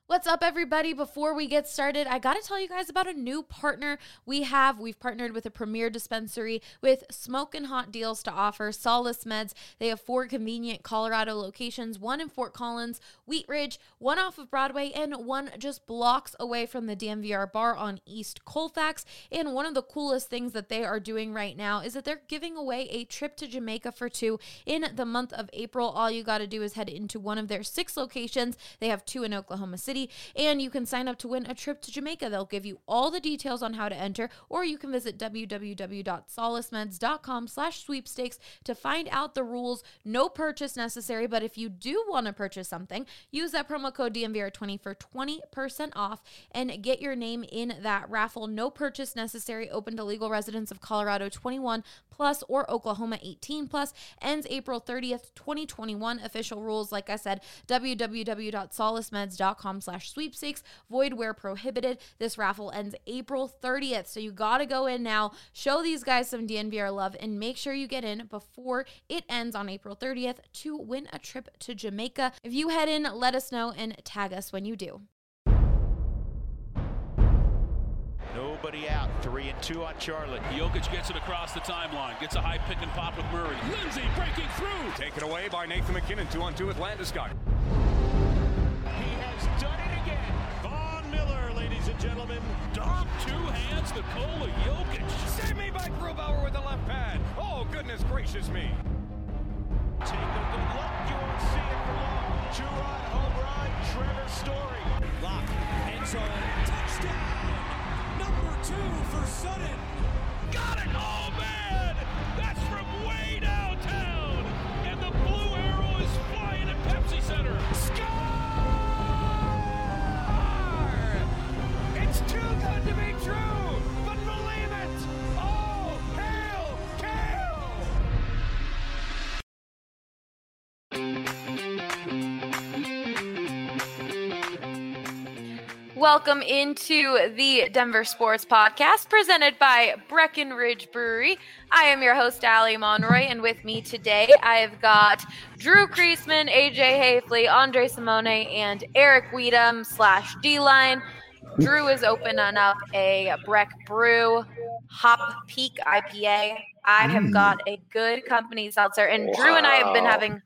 What's up, everybody? Before we get started, I got to tell you guys about a new partner we have. We've partnered with a premier dispensary with smoking hot deals to offer. Solace Meds. They have 4 convenient Colorado locations, 1 in Fort Collins, Wheat Ridge, 1 off of Broadway, and 1 just blocks away from the DMVR bar on East Colfax. And one of the coolest things that they are doing right now is that they're giving away a trip to Jamaica for 2 in the month of April. All you got to do is head into one of their 6 locations. They have 2 in Oklahoma City. And you can sign up to win a trip to Jamaica. They'll give you all the details on how to enter, or you can visit www.solacemeds.com/sweepstakes to find out the rules. No purchase necessary, but if you do want to purchase something, use that promo code DMVR20 for 20% off and get your name in that raffle. No purchase necessary. Open to legal residents of Colorado 21 plus or Oklahoma 18 plus. Ends April 30th, 2021. Official rules, like I said, www.solacemeds.com/sweepstakes. Void where prohibited. This raffle ends April 30th. So you got to go in now, show these guys some DNVR love, and make sure you get in before it ends on April 30th to win a trip to Jamaica. If you head in, let us know and tag us when you do. Nobody out. 3 and 2 on Charlotte. Jokic gets it across the timeline. Gets a high pick and pop with Murray. Lindsay breaking through. Taken away by Nathan McKinnon. 2-on-2 with Landeskog. He has done it again. Von Miller, ladies and gentlemen. Dom, 2 hands, Nikola Jokic. Save me by Grubauer with the left pad. Oh, goodness gracious me. Take a good look. You won't see it for long. 2-run home run. Trevor Story. Lock. End zone. Touchdown. Number 2 for Sutton. Got it! Oh, man! That's from way downtown! And the blue arrow is flying at Pepsi Center. Score! It's too good to be true, but believe it! Oh, hail, Welcome into the Denver Sports Podcast presented by Breckenridge Brewery. I am your host, Allie Monroy, and with me today I've got Drew Kreisman, AJ Hafley, Andre Simone, and Eric Weedham / D-Line. Drew is opening up a Breck Brew Hop Peak IPA. I have got a good company seltzer, and Drew and I have been having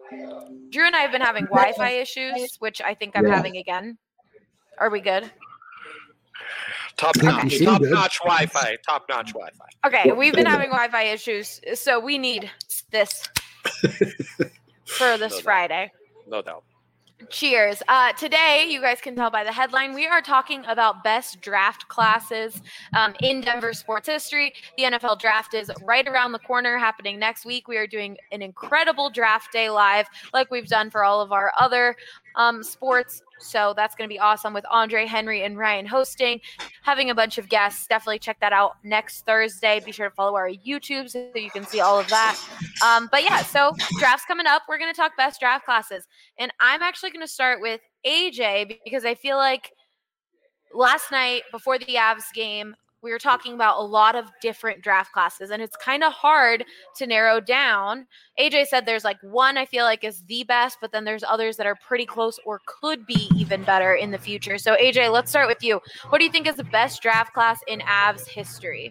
Wi-Fi issues, which I think I'm having again. Are we good? Top-notch Wi-Fi. Top-notch Wi-Fi. Okay, we've been having Wi-Fi issues, so we need this for this Friday. No doubt. Cheers. Today, you guys can tell by the headline, we are talking about best draft classes in Denver sports history. The NFL draft is right around the corner, happening next week. We are doing an incredible draft day live like we've done for all of our other sports. So that's going to be awesome with Andre, Henry, and Ryan hosting, having a bunch of guests. Definitely check that out next Thursday. Be sure to follow our YouTube so you can see all of that. But yeah, so draft's coming up. We're going to talk best draft classes. And I'm actually going to start with AJ because I feel like last night before the Avs game, we were talking about a lot of different draft classes, and it's kind of hard to narrow down. AJ said there's like one I feel like is the best, but then there's others that are pretty close or could be even better in the future. So AJ, let's start with you. What do you think is the best draft class in Avs history?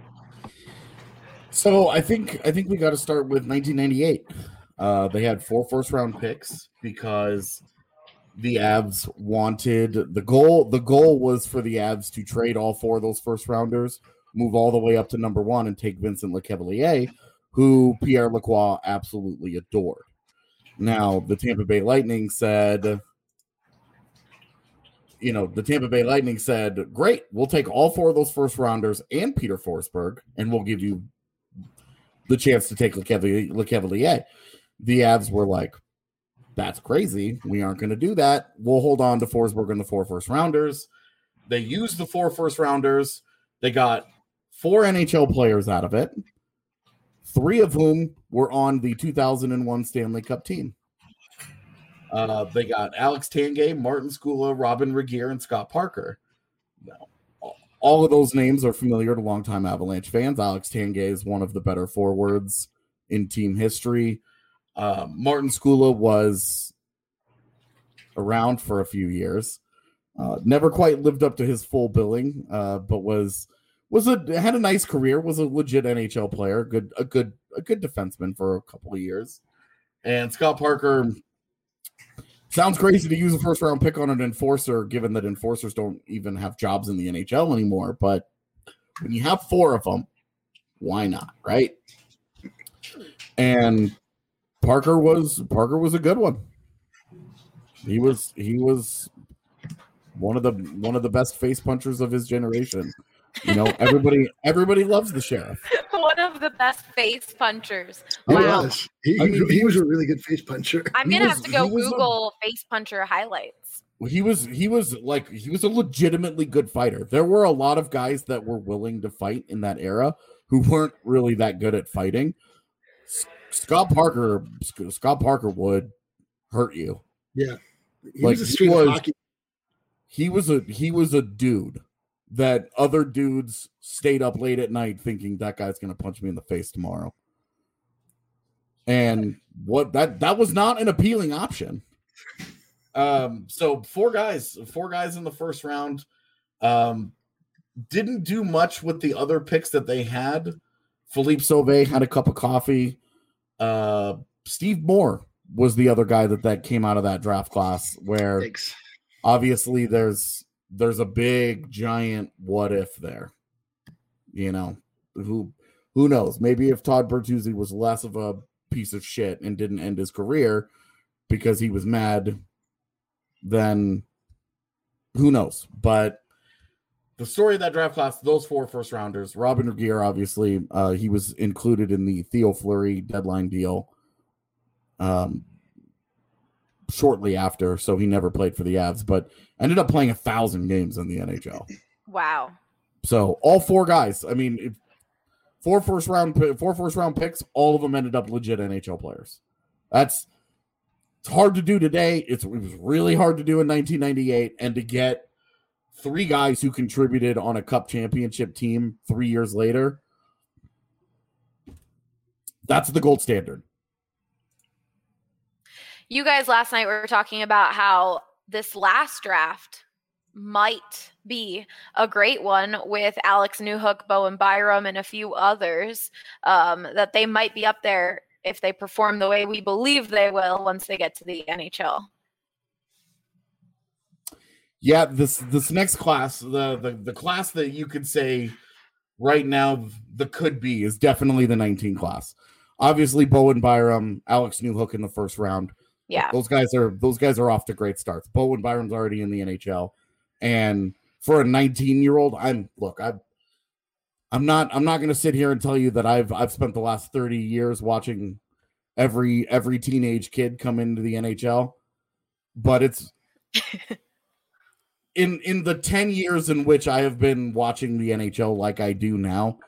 So I think we got to start with 1998. They had 4 first-round picks because the Avs wanted the goal was for the Avs to trade all 4 of those first rounders, move all the way up to number 1 and take Vincent Lecavalier, who Pierre Lacroix absolutely adored. Now, the Tampa Bay Lightning said, great, we'll take all 4 of those first rounders and Peter Forsberg, and we'll give you the chance to take Lecavalier. The Avs were like, that's crazy. We aren't going to do that. We'll hold on to Forsberg and the 4 first rounders. They used the 4 first rounders. They got 4 NHL players out of it, 3 of whom were on the 2001 Stanley Cup team. They got Alex Tanguay, Martin Skula, Robin Regeer, and Scott Parker. Now, all of those names are familiar to longtime Avalanche fans. Alex Tanguay is one of the better forwards in team history. Martin Skula was around for a few years. Never quite lived up to his full billing, but had a nice career. Was a legit NHL player, a good defenseman for a couple of years. And Scott Parker sounds crazy to use a first round pick on an enforcer, given that enforcers don't even have jobs in the NHL anymore. But when you have 4 of them, why not, right? And Parker was a good one. He was one of the best face punchers of his generation. You know, everybody loves the Sheriff. One of the best face punchers. He Wow. was. He was a really good face puncher. I'm gonna have to go Google face puncher highlights. He was a legitimately good fighter. There were a lot of guys that were willing to fight in that era who weren't really that good at fighting. Scott Parker would hurt you. Yeah. He was a street hockey. He was a dude that other dudes stayed up late at night thinking that guy's going to punch me in the face tomorrow. And that was not an appealing option. So four guys in the first round, didn't do much with the other picks that they had. Philippe Sauvé had a cup of coffee. Steve Moore was the other guy that came out of that draft class where obviously there's a big giant what if there. You know, who knows? Maybe if Todd Bertuzzi was less of a piece of shit and didn't end his career because he was mad, then who knows? But the story of that draft class, those 4 first rounders, Robin Regehr, obviously, he was included in the Theo Fleury deadline deal shortly after, so he never played for the Avs, but ended up playing 1,000 games in the NHL. Wow. So all 4 guys, I mean, 4 first round picks, all of them ended up legit NHL players. It's hard to do today. It was really hard to do in 1998, and to get 3 guys who contributed on a cup championship team 3 years later, that's the gold standard. You guys last night were talking about how this last draft might be a great one with Alex Newhook, Bowen Byram, and a few others, that they might be up there if they perform the way we believe they will once they get to the NHL. Yeah, this next class, the class that you could say right now the could be is definitely the 19 class. Obviously, Bowen Byram, Alex Newhook in the first round. Yeah, those guys are off to great starts. Bowen Byram's already in the NHL, and for a 19-year-old, I'm not going to sit here and tell you that I've spent the last 30 years watching every teenage kid come into the NHL, but it's in the 10 years in which I have been watching the NHL like I do now,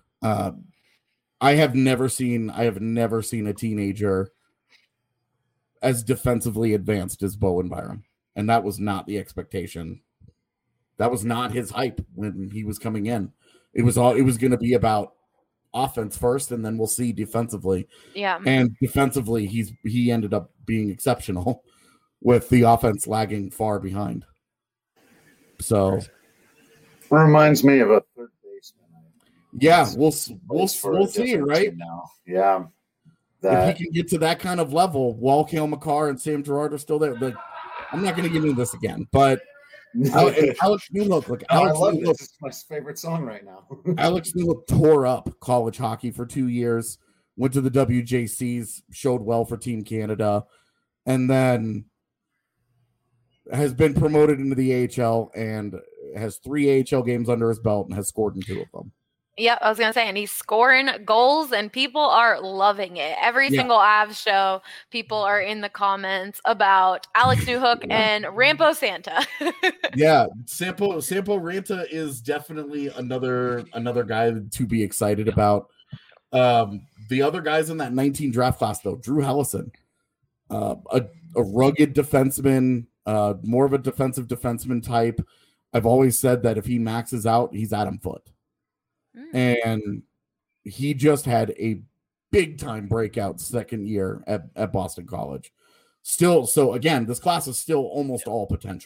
I have never seen a teenager as defensively advanced as Bowen Byram, and that was not the expectation. That was not his hype when he was coming in. It was going to be about offense first, and then we'll see defensively. Yeah, and defensively, he ended up being exceptional, with the offense lagging far behind. So, reminds me of a third baseman. Yeah, we'll see it, right? Now. Yeah. If he can get to that kind of level while Cale Makar and Sam Girard are still there, but I'm not going to get into this again. But Alex Newhook, I love this. It's my favorite song right now. Alex Newhook tore up college hockey for 2 years, went to the WJCs, showed well for Team Canada, and then has been promoted into the AHL and has 3 AHL games under his belt and has scored in 2 of them. Yep, I was going to say, and he's scoring goals, and people are loving it. Every single Avs show, people are in the comments about Alex Newhook and Rampo Santa. Yeah, Sampo Ranta is definitely another guy to be excited about. The other guys in that 19 draft class, though, Drew Hellison, a rugged defenseman, more of a defensive defenseman type. I've always said that if he maxes out, he's Adam Foote. And he just had a big time breakout second year at Boston College. Still, so again, this class is still almost all potential.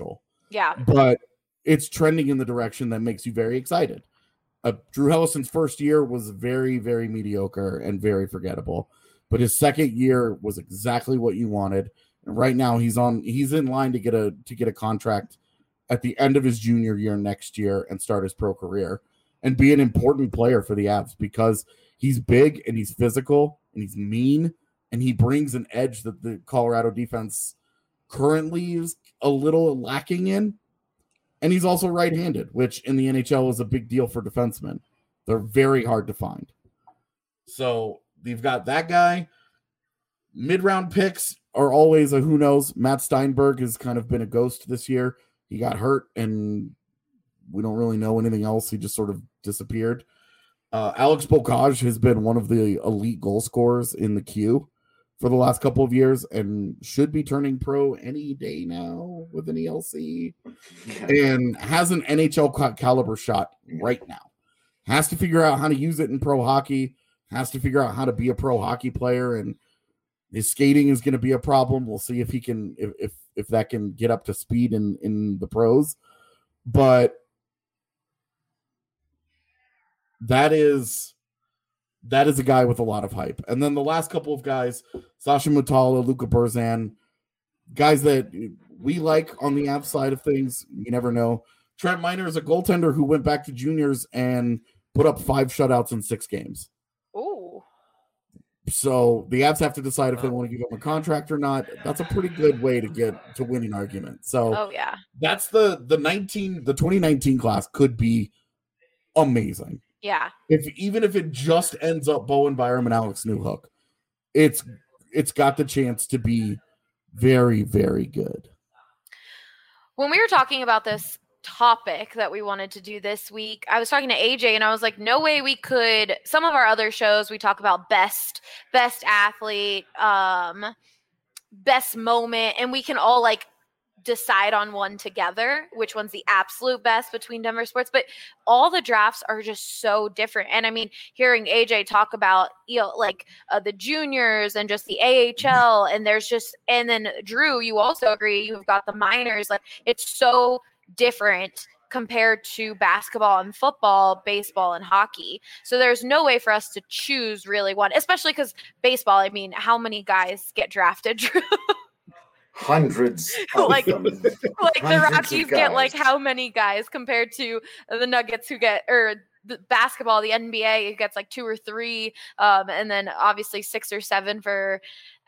Yeah. But it's trending in the direction that makes you very excited. Drew Hellison's first year was very, very mediocre and very forgettable. But his second year was exactly what you wanted. And right now he's in line to get a contract at the end of his junior year next year and start his pro career and be an important player for the Avs because he's big and he's physical and he's mean and he brings an edge that the Colorado defense currently is a little lacking in. And he's also right-handed, which in the NHL is a big deal for defensemen. They're very hard to find. So you've got that guy. Mid-round picks are always a who knows. Matt Steinberg has kind of been a ghost this year. He got hurt, and we don't really know anything else. He just sort of disappeared. Alex Bocage has been one of the elite goal scorers in the queue for the last couple of years and should be turning pro any day now with an ELC and has an NHL caliber shot right now. Has to figure out how to use it in pro hockey, has to figure out how to be a pro hockey player, and his skating is going to be a problem. We'll see if he can, if that can get up to speed in the pros. But that is a guy with a lot of hype. And then the last couple of guys, Sasha Mutala, Luka Burzan, guys that we like on the Avs side of things. You never know. Trent Miner is a goaltender who went back to juniors and put up 5 shutouts in 6 games. Ooh. So the Avs have to decide if they want to give him a contract or not. That's a pretty good way to get to winning argument. So yeah, that's the 2019 class could be amazing. Yeah. Even if it just ends up Bowen Byram and Alex Newhook, it's got the chance to be very, very good. When we were talking about this topic that we wanted to do this week, I was talking to AJ and I was like, no way we could. Some of our other shows, we talk about best athlete, best moment, and we can all like decide on one together, which one's the absolute best between Denver sports, but all the drafts are just so different. And I mean, hearing AJ talk about, the juniors and just the AHL and and then Drew, you also agree, you've got the minors, like it's so different compared to basketball and football, baseball and hockey. So there's no way for us to choose really one, especially because baseball, I mean, how many guys get drafted, Drew? Hundreds. like them. The Rockies get like how many guys compared to the Nuggets who get, or the basketball, the NBA gets like 2 or 3, and then obviously 6 or 7 for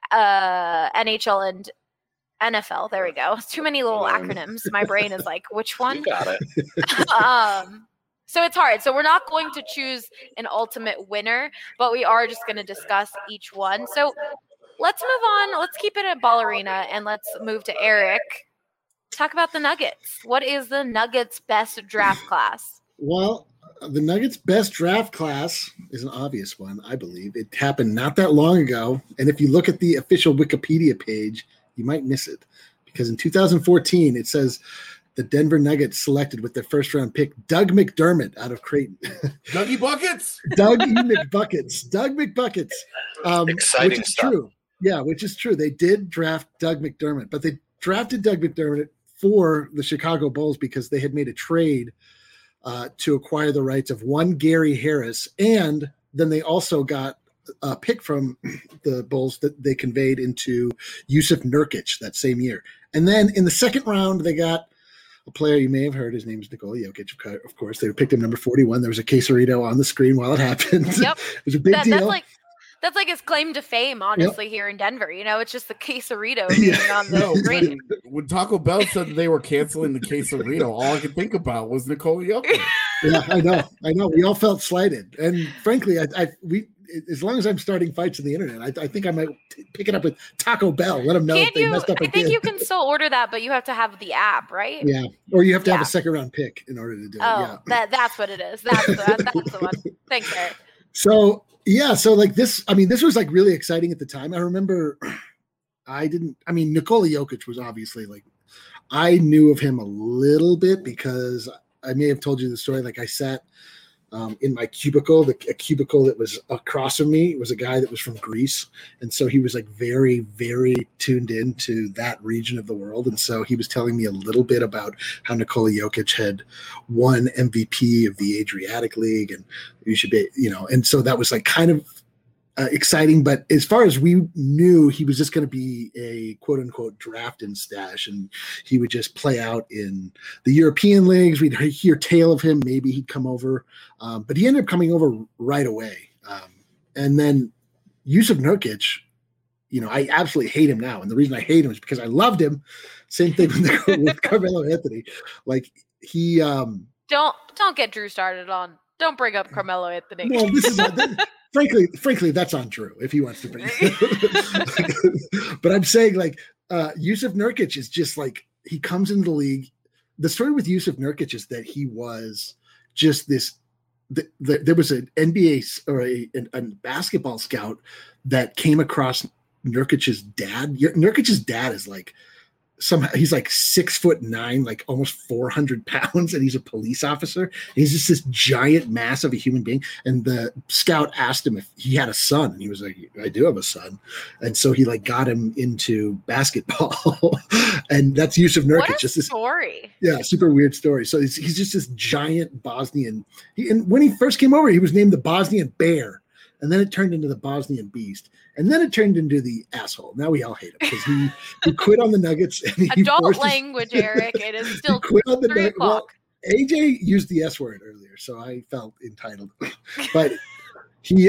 NHL and NFL. There we go. It's too many little acronyms. My brain is like, which one? You got it. So it's hard. So we're not going to choose an ultimate winner, but we are just going to discuss each one. So let's move on. Let's keep it at Ballerina and let's move to Eric. Talk about the Nuggets. What is the Nuggets' best draft class? Well, the Nuggets' best draft class is an obvious one, I believe. It happened not that long ago. And if you look at the official Wikipedia page, you might miss it. Because in 2014, it says the Denver Nuggets selected with their first-round pick Doug McDermott out of Creighton. Dougie Buckets! Doug McBuckets. Doug McBuckets. Exciting which is stuff. True. Yeah, which is true. They did draft Doug McDermott, but they drafted Doug McDermott for the Chicago Bulls because they had made a trade to acquire the rights of one Gary Harris, and then they also got a pick from the Bulls that they conveyed into Yusuf Nurkic that same year. And then in the second round, they got a player you may have heard. His name is Nikola Jokic, of course. They picked him number 41. There was a quesarito on the screen while it happened. Yep. It was a big deal. That's like his claim to fame, honestly, here in Denver. You know, it's just the quesarito being on the screen. When Taco Bell said they were canceling the quesarito, all I could think about was Nikola Jokic. Yeah, I know. We all felt slighted, and frankly, we as long as I'm starting fights on the internet, I think I might pick it up with Taco Bell. Let them know if they messed up. I think you can still order that, but you have to have the app, right? Yeah, or you have to have a second round pick in order to do it. Oh, yeah. That's what it is. That's the one. Thanks, Eric. So. Yeah, so like this, I mean, this was like really exciting at the time. I remember Nikola Jokic was obviously like, I knew of him a little bit because I may have told you the story. Like I sat in my cubicle. A cubicle that was across from me was a guy that was from Greece, and so he was like very, very tuned into that region of the world. And so he was telling me a little bit about how Nikola Jokic had won MVP of the Adriatic League, and you should be, and so that was like kind of exciting. But as far as we knew, he was just going to be a quote unquote draft and stash, and he would just play out in the European leagues. We'd hear tale of him. Maybe he'd come over, but he ended up coming over right away. And then Yusuf Nurkic, I absolutely hate him now. And the reason I hate him is because I loved him. Same thing with Carmelo Anthony. Like he, don't get Drew started on. Don't bring up Carmelo Anthony. Well, this is frankly, that's on Drew if he wants to bring it. But I'm saying like Yusuf Nurkic is just like, he comes into the league. The story with Yusuf Nurkic is that he was just this. There was an NBA or a basketball scout that came across Nurkic's dad. Nurkic's dad is like he's like 6'9", like almost 400 pounds, and he's a police officer. He's just this giant mass of a human being. And the scout asked him if he had a son, and he was like, "I do have a son." And so he like got him into basketball, and that's Yusuf Nurkic. What a story! Super weird story. So he's just this giant Bosnian. And when he first came over, he was named the Bosnian Bear. And then it turned into the Bosnian Beast. And then it turned into the asshole. Now we all hate him because he quit on the Nuggets. And he Adult language, Eric. It is still quit on the 3 o'clock. Well, AJ used the S word earlier, so I felt entitled. But he...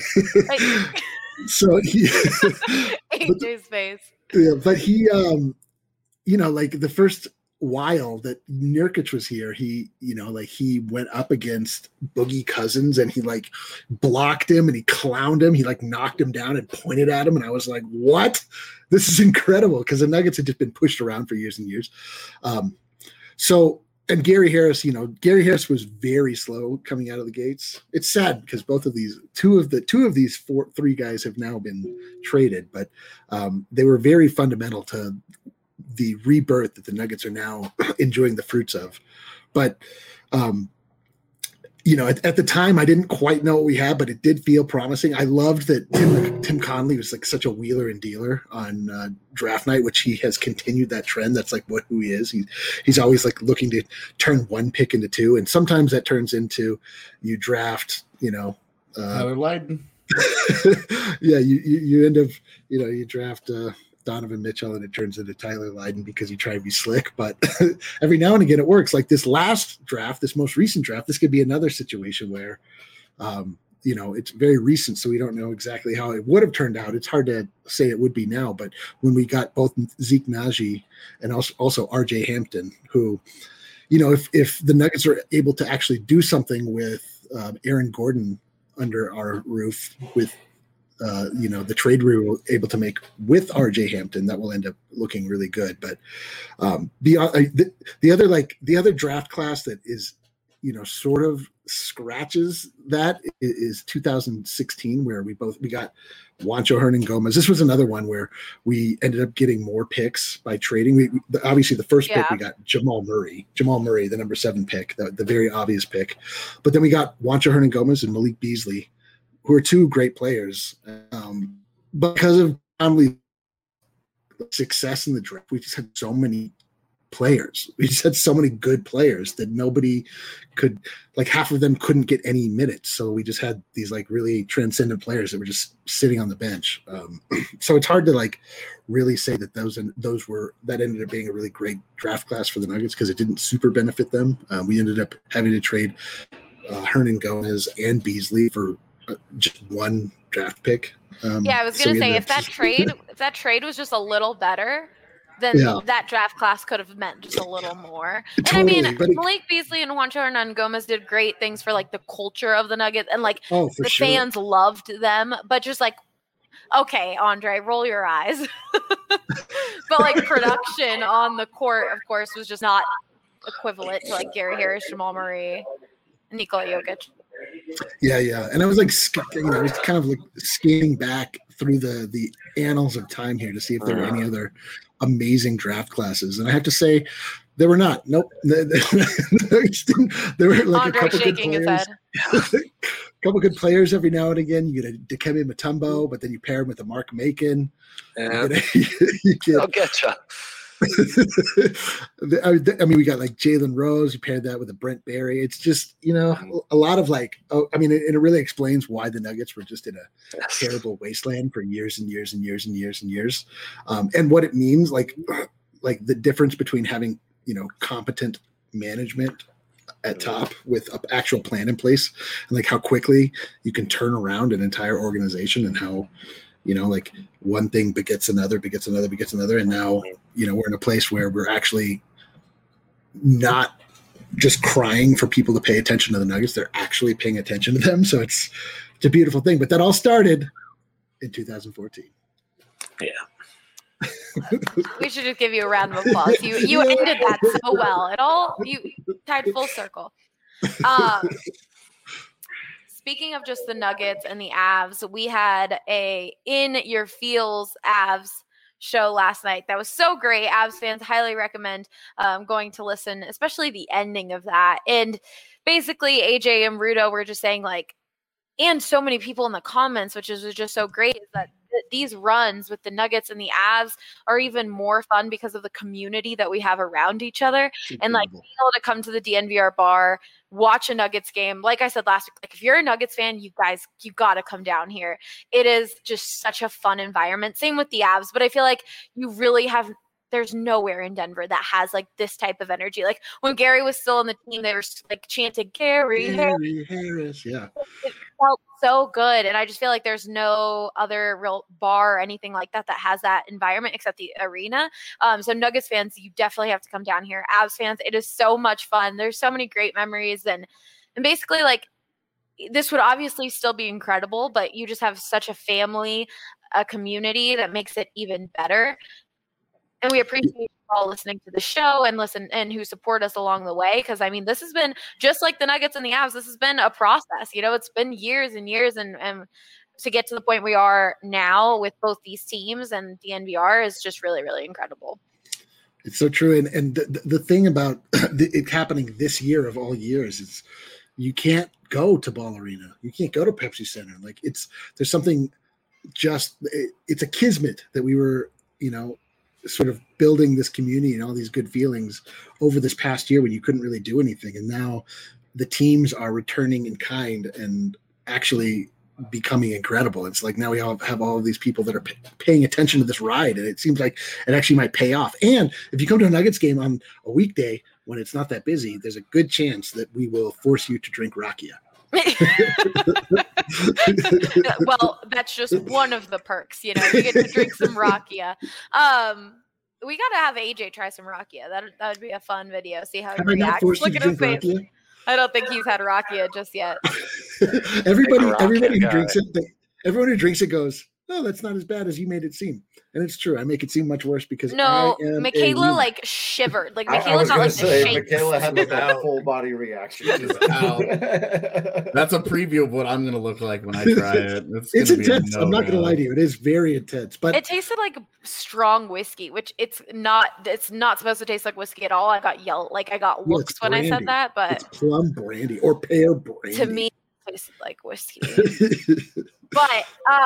so he... AJ's face. Yeah, but he... like the first while that Nurkic was here, he went up against Boogie Cousins and he like blocked him and he clowned him. He like knocked him down and pointed at him. And I was like, what? This is incredible. Because the Nuggets had just been pushed around for years and years. And Gary Harris, Gary was very slow coming out of the gates. It's sad because both of these, two of these three guys have now been traded, but they were very fundamental to the rebirth that the Nuggets are now enjoying the fruits of. But, at the time I didn't quite know what we had, but it did feel promising. I loved that Tim Connelly was like such a wheeler and dealer on draft night, which he has continued that trend. That's like who he is. He's always like looking to turn one pick into two. And sometimes that turns into you draft, Tyler Lydon. Yeah. You end up, you draft, Donovan Mitchell and it turns into Tyler Lydon because you try to be slick, but every now and again it works. Like this last draft, this most recent draft, this could be another situation where, it's very recent, so we don't know exactly how it would have turned out. It's hard to say it would be now, but when we got both Zeke Naji and also RJ Hampton, who, if the Nuggets are able to actually do something with Aaron Gordon under our roof with, the trade we were able to make with RJ Hampton, that will end up looking really good. But the other draft class that is, sort of scratches that is 2016, where we got Juancho Hernangomez. This was another one where we ended up getting more picks by trading. Obviously the first pick we got Jamal Murray, the number 7 pick, the very obvious pick. But then we got Juancho Hernangomez and Malik Beasley, who are 2 great players. Because of Conley's success in the draft, we just had so many players. We just had so many good players that nobody could, like half of them couldn't get any minutes. So we just had these like really transcendent players that were just sitting on the bench. So it's hard to like really say that that ended up being a really great draft class for the Nuggets because it didn't super benefit them. We ended up having to trade Hernangomez and Beasley for just 1 draft pick. I was going to say if that trade was just a little better, then that draft class could have meant just a little more. Totally, and I mean, Malik Beasley and Juancho Hernangomez did great things for like the culture of the Nuggets, and like the fans loved them. But just like, okay, Andre, roll your eyes. But like production on the court, of course, was just not equivalent to like Gary Harris, Jamal Murray, Nikola Jokic. Yeah. And I was like, I was kind of like scanning back through the annals of time here to see if there were any other amazing draft classes. And I have to say, They were not. Nope. There were like Andre a couple good shaking his players. head. A couple good players every now and again. You get a Dikembe Mutombo, but then you pair him with a Mark Macon. Yeah. You get, I'll get you. I mean, we got like Jalen Rose. You paired that with a Brent Berry. It's just, a lot of like, it really explains why the Nuggets were just in a terrible wasteland for years and years and years and years and years. And what it means, like the difference between having, competent management at top with an actual plan in place, and like how quickly you can turn around an entire organization, and how, like one thing begets another. And now, we're in a place where we're actually not just crying for people to pay attention to the Nuggets. They're actually paying attention to them. So it's a beautiful thing, but that all started in 2014. Yeah. We should just give you a round of applause. You ended that so well. You tied full circle. Speaking of just the Nuggets and the Avs, we had a In Your Feels Avs show last night. That was so great. Avs fans highly recommend going to listen, especially the ending of that. And basically, AJ and Rudo were just saying, like, and so many people in the comments, which is just so great, is that these runs with the Nuggets and the Avs are even more fun because of the community that we have around each other. And like being able to come to the DNVR bar, watch a Nuggets game. Like I said last week, like if you're a Nuggets fan, you got to come down here. It is just such a fun environment. Same with the Avs, but I feel like you really there's nowhere in Denver that has like this type of energy. Like when Gary was still on the team, they were like chanting Gary Harris. Yeah. It felt so good. And I just feel like there's no other real bar or anything like that has that environment except the arena. So Nuggets fans, you definitely have to come down here. Avs fans, it is so much fun. There's so many great memories. And basically like this would obviously still be incredible, but you just have such a family, a community that makes it even better. And we appreciate you all listening to the show and who support us along the way. Because, I mean, this has been just like the Nuggets and the Avs. This has been a process. It's been years and years. And to get to the point we are now with both these teams and the DNVR is just really, really incredible. It's so true. And the thing about it happening this year of all years is you can't go to Ball Arena. You can't go to Pepsi Center. Like there's something it's a kismet that we were, sort of building this community and all these good feelings over this past year when you couldn't really do anything. And now the teams are returning in kind and actually becoming incredible. It's like now we all have all of these people that are paying attention to this ride, and it seems like it actually might pay off. And if you come to a Nuggets game on a weekday when it's not that busy, there's a good chance that we will force you to drink rakia. Well, that's just one of the perks, you get to drink some rakia. We got to have AJ try some rakia. That would be a fun video. See how he reacts. Look at his face. Rakia? I don't think he's had rakia just yet. Everybody who drinks it, everyone who drinks it goes, "Oh, that's not as bad as you made it seem." And it's true. I make it seem much worse because Michaela like shivered. Like Michaela got like the shakes. Michaela had the full body reaction. That's a preview of what I'm going to look like when I try it. It's intense. I'm not going to lie to you. It is very intense. But it tasted like strong whiskey, which it's not supposed to taste like whiskey at all. I got looks when I said that, but it's plum brandy or pear brandy. To me, it tasted like whiskey. But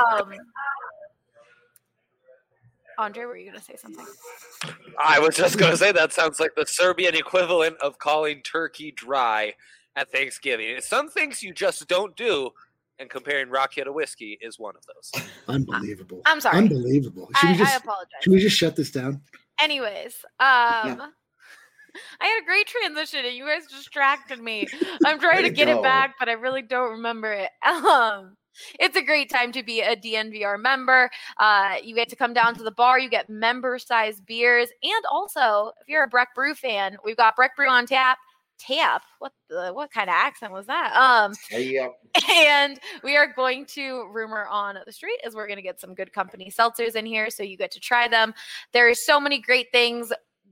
Andre, were you going to say something? I was just going to say that sounds like the Serbian equivalent of calling turkey dry at Thanksgiving. It's some things you just don't do, and comparing rakia to whiskey is one of those. Unbelievable. I'm sorry. Unbelievable. I apologize. Should we just shut this down? Anyways, I had a great transition, and you guys distracted me. I'm trying to get it back, but I really don't remember it. It's a great time to be a DNVR member. You get to come down to the bar. You get member-sized beers. And also, if you're a Breck Brew fan, we've got Breck Brew on tap. What kind of accent was that? And we are going to rumor on the street is we're going to get some Good Company seltzers in here, so you get to try them. There are so many great things.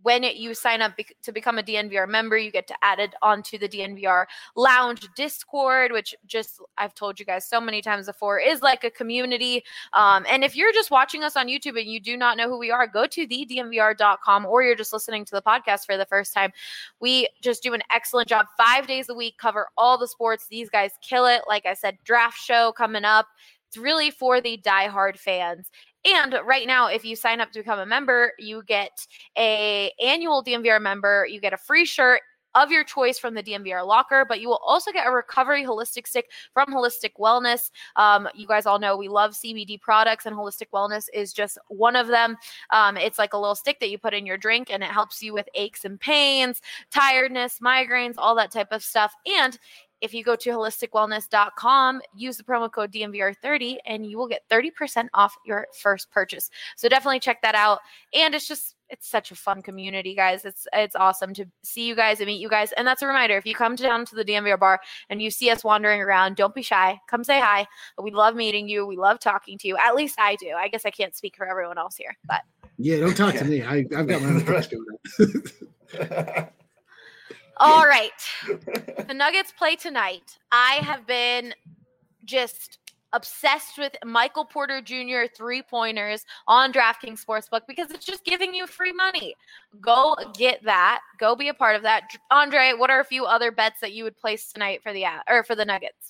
when you sign up to become a DNVR member, you get to add it onto the DNVR Lounge Discord, which just I've told you guys so many times before is like a community. And if you're just watching us on YouTube and you do not know who we are, go to thednvr.com, or you're just listening to the podcast for the first time. We just do an excellent job 5 days a week, cover all the sports. These guys kill it. Like I said, draft show coming up. It's really for the diehard fans. And right now, if you sign up to become a member, you get a annual DNVR member. You get a free shirt of your choice from the DNVR locker, but you will also get a recovery holistic stick from Holistic Wellness. You guys all know we love CBD products, and Holistic Wellness is just one of them. It's like a little stick that you put in your drink, and it helps you with aches and pains, tiredness, migraines, all that type of stuff. And if you go to holisticwellness.com, use the promo code DNVR30, and you will get 30% off your first purchase. So definitely check that out. And it's such a fun community, guys. It's awesome to see you guys and meet you guys. And that's a reminder, if you come down to the DNVR bar and you see us wandering around, don't be shy. Come say hi. We love meeting you. We love talking to you. At least I do. I guess I can't speak for everyone else here, but yeah, don't talk to me. I've got my own things going on. All right. The Nuggets play tonight. I have been just obsessed with Michael Porter Jr. 3-pointers on DraftKings Sportsbook because it's just giving you free money. Go get that. Go be a part of that. Andre, what are a few other bets that you would place tonight for the Nuggets?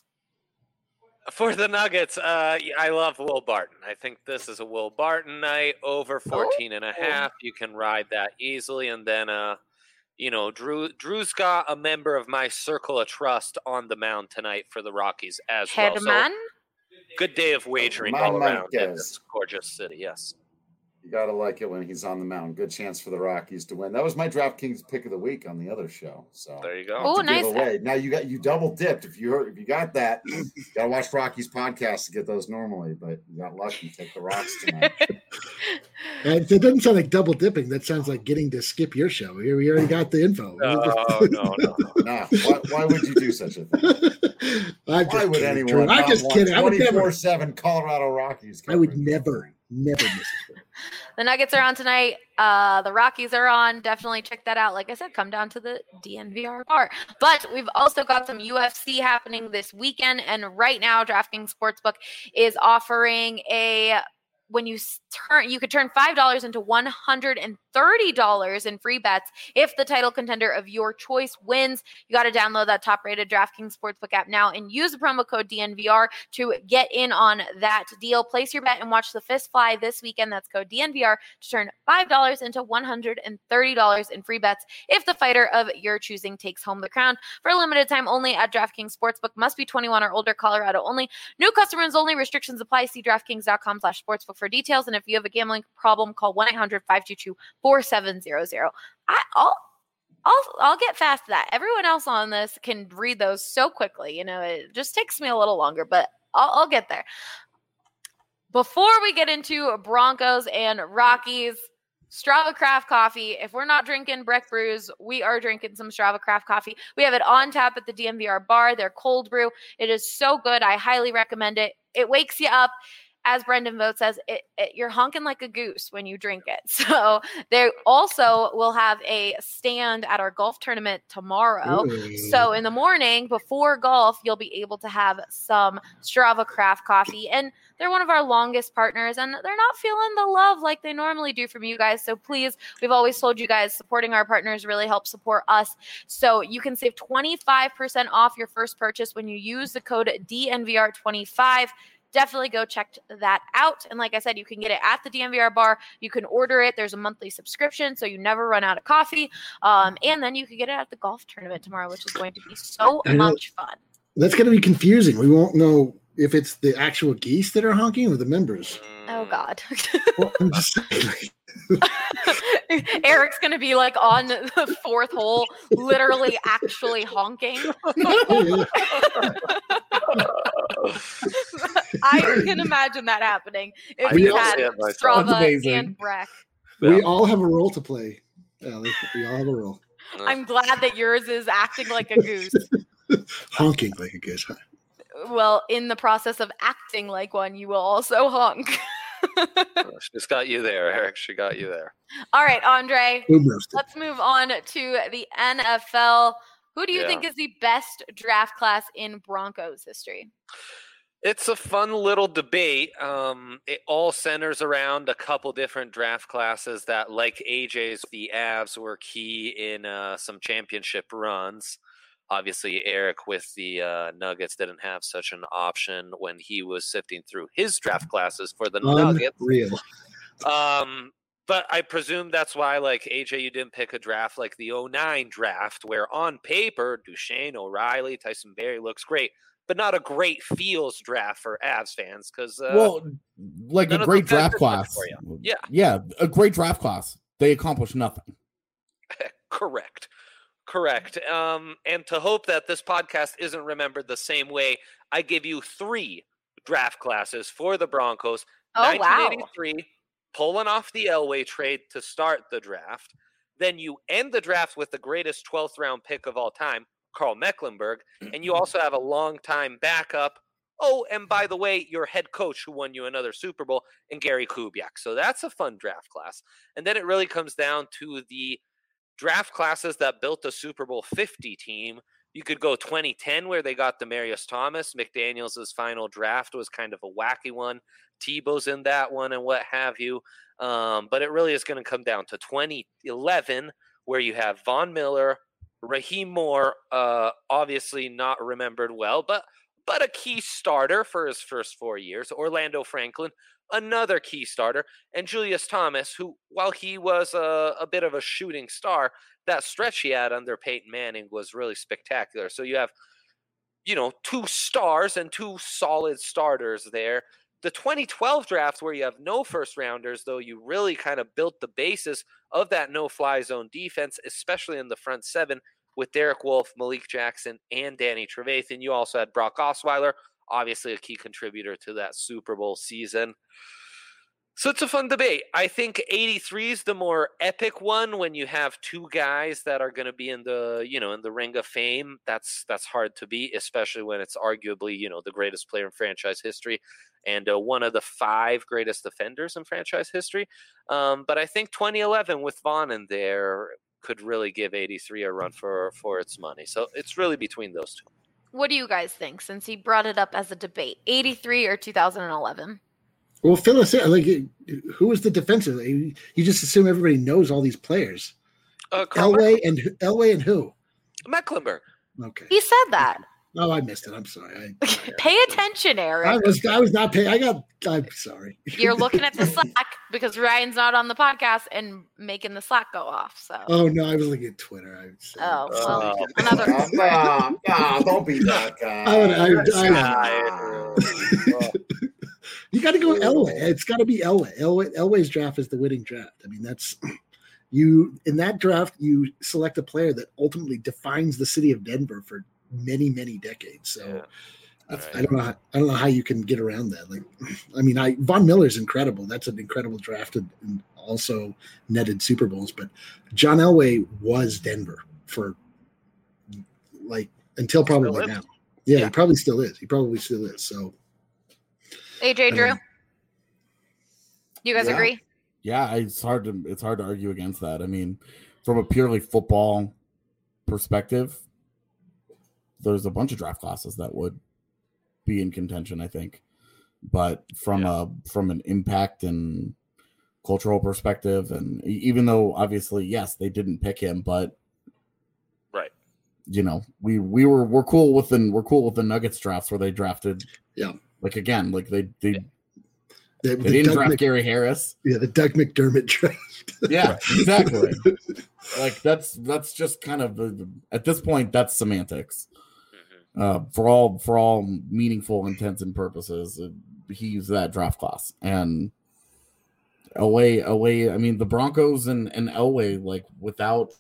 For the Nuggets, I love Will Barton. I think this is a Will Barton night, over 14.5. You can ride that easily. And then, Drew's got a member of my circle of trust on the mound tonight for the Rockies as well. So, good day of wagering all around in this gorgeous city, yes. You got to like it when he's on the mound. Good chance for the Rockies to win. That was my DraftKings pick of the week on the other show. So there you go. Oh, nice. Now you double dipped. If you got that, you got to watch Rockies podcast to get those normally. But you got lucky. Take the Rocks tonight. It doesn't sound like double dipping. That sounds like getting to skip your show. We already got the info. No. Nah, why would you do such a thing? Why would anyone? I'm just kidding. 24/7 Colorado Rockies. I would never miss it. The Nuggets are on tonight. The Rockies are on. Definitely check that out. Like I said, come down to the DNVR bar. But we've also got some UFC happening this weekend. And right now, DraftKings Sportsbook is offering you could turn $5 into $130 in free bets if the title contender of your choice wins. You got to download that top-rated DraftKings Sportsbook app now and use the promo code DNVR to get in on that deal. Place your bet and watch the fist fly this weekend. That's code DNVR to turn $5 into $130 in free bets if the fighter of your choosing takes home the crown. For a limited time only at DraftKings Sportsbook. Must be 21 or older. Colorado only. New customers only. Restrictions apply. See DraftKings.com/sportsbook for details. And if you have a gambling problem, call 1-800-522-4700. I'll get fast to that. Everyone else on this can read those so quickly. It just takes me a little longer, but I'll get there. Before we get into Broncos and Rockies, Strava Craft Coffee. If we're not drinking Breck Brews, we are drinking some Strava Craft Coffee. We have it on tap at the DNVR bar. Their cold brew. It is so good. I highly recommend it. It wakes you up. As Brendan Vogt says, you're honking like a goose when you drink it. So they also will have a stand at our golf tournament tomorrow. Ooh. So in the morning before golf, you'll be able to have some Strava Craft Coffee. And they're one of our longest partners, and they're not feeling the love like they normally do from you guys. So please, we've always told you guys, supporting our partners really helps support us. So you can save 25% off your first purchase when you use the code DNVR25. Definitely go check that out. And like I said, you can get it at the DNVR bar. You can order it. There's a monthly subscription, so you never run out of coffee. And then you can get it at the golf tournament tomorrow, which is going to be so much fun. That's going to be confusing. We won't know if it's the actual geese that are honking or the members. Oh, God. Well, I'm just saying, Eric's going to be like on the fourth hole, literally actually honking. I can imagine that happening if you had Strava and Breck. We all have a role to play, Allie. We all have a role. I'm glad that yours is acting like a goose. Honking like a goose. Well, in the process of acting like one, you will also honk. She's got you there, Eric. She got you there. All right, Andre, Boom roasted. let's move on to the NFL. Who do you Yeah. think is the best draft class in Broncos history? It's a fun little debate. It all centers around a couple different draft classes that, like AJ's, the Avs were key in some championship runs. Obviously, Eric with the Nuggets didn't have such an option when he was sifting through his draft classes for the Nuggets. Unreal. But I presume that's why, like, AJ, you didn't pick a draft like the 2009 draft, where on paper, Duchesne, O'Reilly, Tyson Berry looks great, but not a great feels draft for Avs fans because like a great draft class. Yeah, a great draft class. They accomplished nothing. Correct. And to hope that this podcast isn't remembered the same way, I give you 3 draft classes for the Broncos. Oh, wow. 1983, pulling off the Elway trade to start the draft. Then you end the draft with the greatest 12th round pick of all time, Carl Mecklenburg, and you also have a long-time backup. Oh, and by the way, your head coach who won you another Super Bowl, and Gary Kubiak. So that's a fun draft class. And then it really comes down to the draft classes that built a Super Bowl 50 team. You could go 2010, where they got Demaryius Thomas. McDaniels' final draft was kind of a wacky one. Tebow's in that one and what have you. But it really is going to come down to 2011, where you have Von Miller, Raheem Moore, obviously not remembered well, but a key starter for his first 4 years. Orlando Franklin, another key starter, and Julius Thomas, who, while he was a bit of a shooting star, that stretch he had under Peyton Manning was really spectacular. So you have, 2 stars and 2 solid starters there. The 2012 draft, where you have no first rounders, though you really kind of built the basis of that no-fly zone defense, especially in the front 7 with Derek Wolfe, Malik Jackson, and Danny Trevathan. You also had Brock Osweiler, obviously a key contributor to that Super Bowl season. So it's a fun debate. I think 83 is the more epic one when you have 2 guys that are going to be in the, in the Ring of Fame. That's hard to beat, especially when it's arguably, the greatest player in franchise history and one of the 5 greatest defenders in franchise history. But I think 2011 with Vaughn in there could really give 83 a run for its money. So it's really between those 2. What do you guys think, since he brought it up as a debate? 83 or 2011? Well, fill us in. Like, who is the defensive? You just assume everybody knows all these players. Elway and who? Mecklenburg. Okay. He said that. Oh, I missed it. I'm sorry. Pay attention, Eric. I was not paying. I'm sorry. You're looking at the Slack because Ryan's not on the podcast and making the Slack go off. So. Oh no, I was looking at Twitter. Another. No, don't be that guy. You got to go Elway. It's got to be Elway. Elway's draft is the winning draft. I mean, that's you in that draft. You select a player that ultimately defines the city of Denver for many, many decades. So I don't know how you can get around that. Like, I mean, Von Miller's incredible. That's an incredible draft and also netted Super Bowls. But John Elway was Denver for like until probably now. Yeah, he probably still is. So. AJ Drew, you guys agree? Yeah, it's hard to argue against that. I mean, from a purely football perspective, there's a bunch of draft classes that would be in contention, I think. But from an impact and cultural perspective, and even though obviously, yes, they didn't pick him, but right, we're cool with the Nuggets drafts where they drafted. Yeah. Like again, like they didn't draft Gary Harris. Yeah, the Doug McDermott draft. Yeah, exactly. Like that's just kind of at this point that's semantics. For all meaningful intents and purposes, he's that draft class. And Elway. I mean, the Broncos and Elway, like without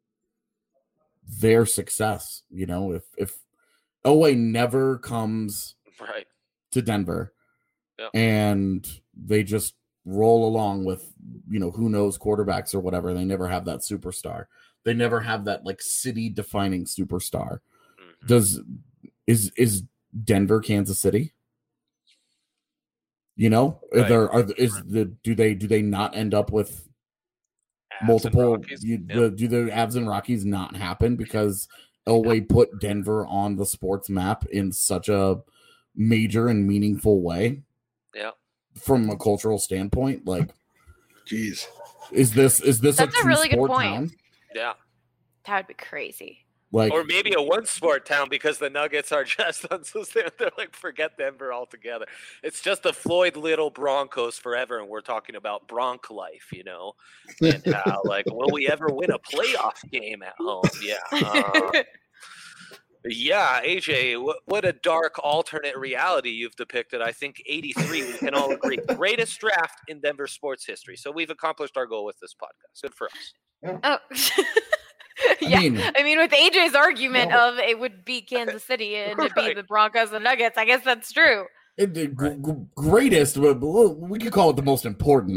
their success, if Elway never comes right to Denver, and they just roll along with, who knows quarterbacks or whatever. They never have that superstar. They never have that like city defining superstar. Is Denver Kansas City? You know, Right. do they not end up with Avs and multiple? Rockies. Do the Avs and Rockies not happen because Elway put Denver on the sports map in such a major and meaningful way? Yeah. From a cultural standpoint, like, Jeez, is this That's a a true really good sport point. town? Yeah. That would be crazy. Like, Or maybe a one sport town because the Nuggets are just they're like, forget Denver altogether. It's just the Floyd Little Broncos forever, and we're talking about Bronc life, you know, and how like, will we ever win a playoff game at home? Yeah. Yeah, AJ, what a dark alternate reality you've depicted. I think 83, we can all agree, greatest draft in Denver sports history. So we've accomplished our goal with this podcast. Good for us. Oh. Yeah, mean- I mean, with AJ's argument of it would be Kansas City and it'd be Right. the Broncos and Nuggets, I guess that's true. Greatest, but we could call it the most important.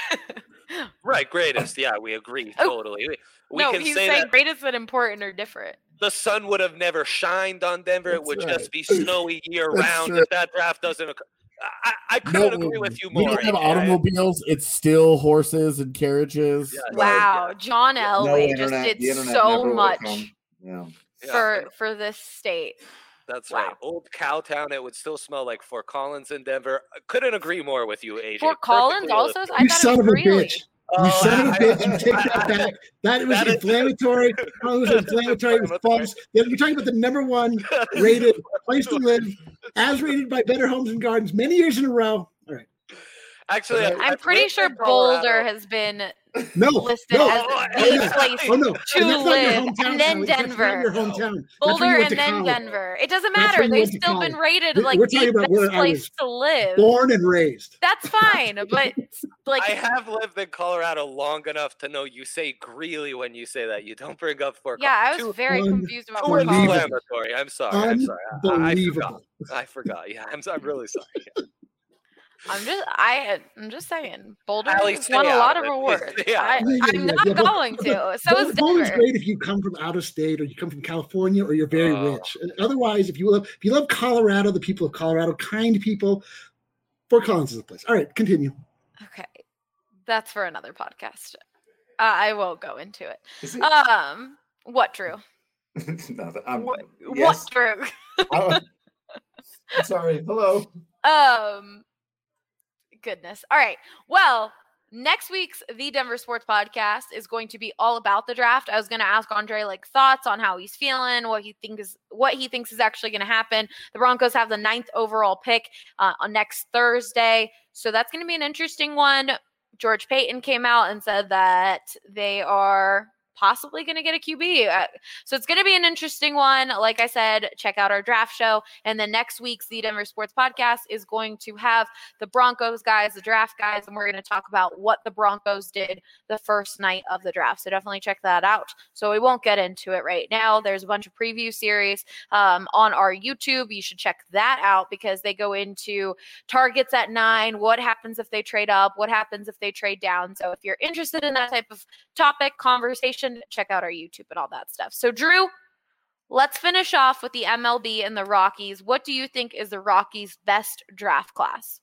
Right, greatest. Yeah, we agree Oh, totally. We no, can he's say saying that greatest and important are different. the sun would have never shined on Denver. It That's would right. just be snowy year That's round true. if that draft doesn't occur. I couldn't agree with you more. We don't have AJ. automobiles. It's still horses and carriages. Yeah, Wow, John No Elway just internet. did The internet so never will much come. Yeah. Yeah, for this state. that's Wow. right. Old Cowtown. It would still smell like Fort Collins in Denver. I couldn't agree more with you, AJ. Fort Collins Perfectly also? illustrated. I You thought son it of was a Greeley. bitch! You son of a bitch! You take that back. That was That is- inflammatory. It was inflammatory. It was false. You're talking about the number one rated place to live, as rated by Better Homes and Gardens many years in a row. All right. Actually, I'm pretty lived sure in Colorado. Boulder has been No, listed no. as Oh, the yeah. place Oh no! to And that's not your live, hometown. and then Alex. That's not Denver. your hometown. That's Boulder where you went and to then college. Denver. It doesn't That's matter. where you They've went to still been college. rated We're like talking the about where best I place was to live. Born and raised. That's fine, but like I have lived in Colorado long enough to know you say Greeley when you say that. You don't bring up Fort yeah, I Collins. was very confused about Too Fort Collins. inflammatory. I'm sorry. I'm sorry. I forgot. Unbelievable. I forgot. Yeah, I'm really sorry. Yeah. I'm just saying, Boulder Allie, has stay won a out lot of of it. awards. Stay out of it. I'm not Yeah, but- going to. So is Boulder's Denver. great if you come from out of state or you come from California or you're very Oh. rich. Otherwise, if you love Colorado, the people of Colorado, kind people, Fort Collins is the place. All right, continue. Okay, that's for another podcast. I won't go into it. Is it? What, Drew? Nothing. What, Yes. what, Drew? I'm sorry. Hello. Goodness. All right. Well, next week's The Denver Sports Podcast is going to be all about the draft. I was going to ask Andre like thoughts on how he's feeling, what he thinks is actually going to happen. The Broncos have the 9th overall pick on next Thursday, so that's going to be an interesting one. George Payton came out and said that they are possibly going to get a QB. So it's going to be an interesting one. Like I said, check out our draft show. And then next week's The Denver Sports Podcast is going to have the Broncos guys, the draft guys, and we're going to talk about what the Broncos did the first night of the draft. So definitely check that out. So we won't get into it right now. There's a bunch of preview series on our YouTube. You should check that out because they go into targets at 9, what happens if they trade up, what happens if they trade down. So if you're interested in that type of topic, conversation, check out our YouTube and all that stuff. So Drew, let's finish off with the MLB and the Rockies. What do you think is the Rockies' best draft class?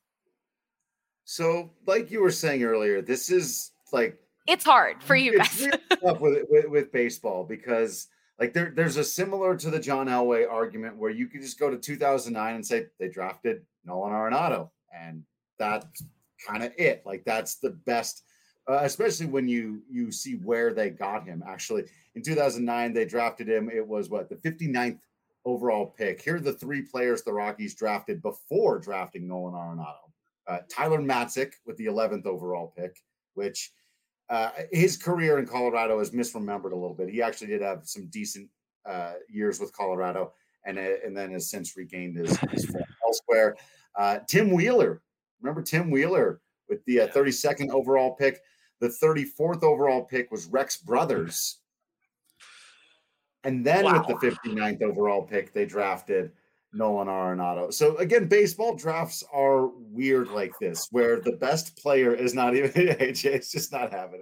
So, like you were saying earlier, this is like It's hard for you it's guys. really tough with baseball because like there's a similar to the John Elway argument where you could just go to 2009 and say they drafted Nolan Arenado, and that's kind of it. Like that's the best. Especially when you see where they got him. Actually, in 2009, they drafted him. It was the 59th overall pick. Here are the 3 players the Rockies drafted before drafting Nolan Arenado. Tyler Matzik with the 11th overall pick, which his career in Colorado is misremembered a little bit. He actually did have some decent years with Colorado, and then has since regained his form elsewhere. Tim Wheeler, remember Tim Wheeler with the 32nd overall pick. The 34th overall pick was Rex Brothers. And then with the 59th overall pick, they drafted Nolan Arenado. So again, baseball drafts are weird like this, where the best player is not even AJ's just not having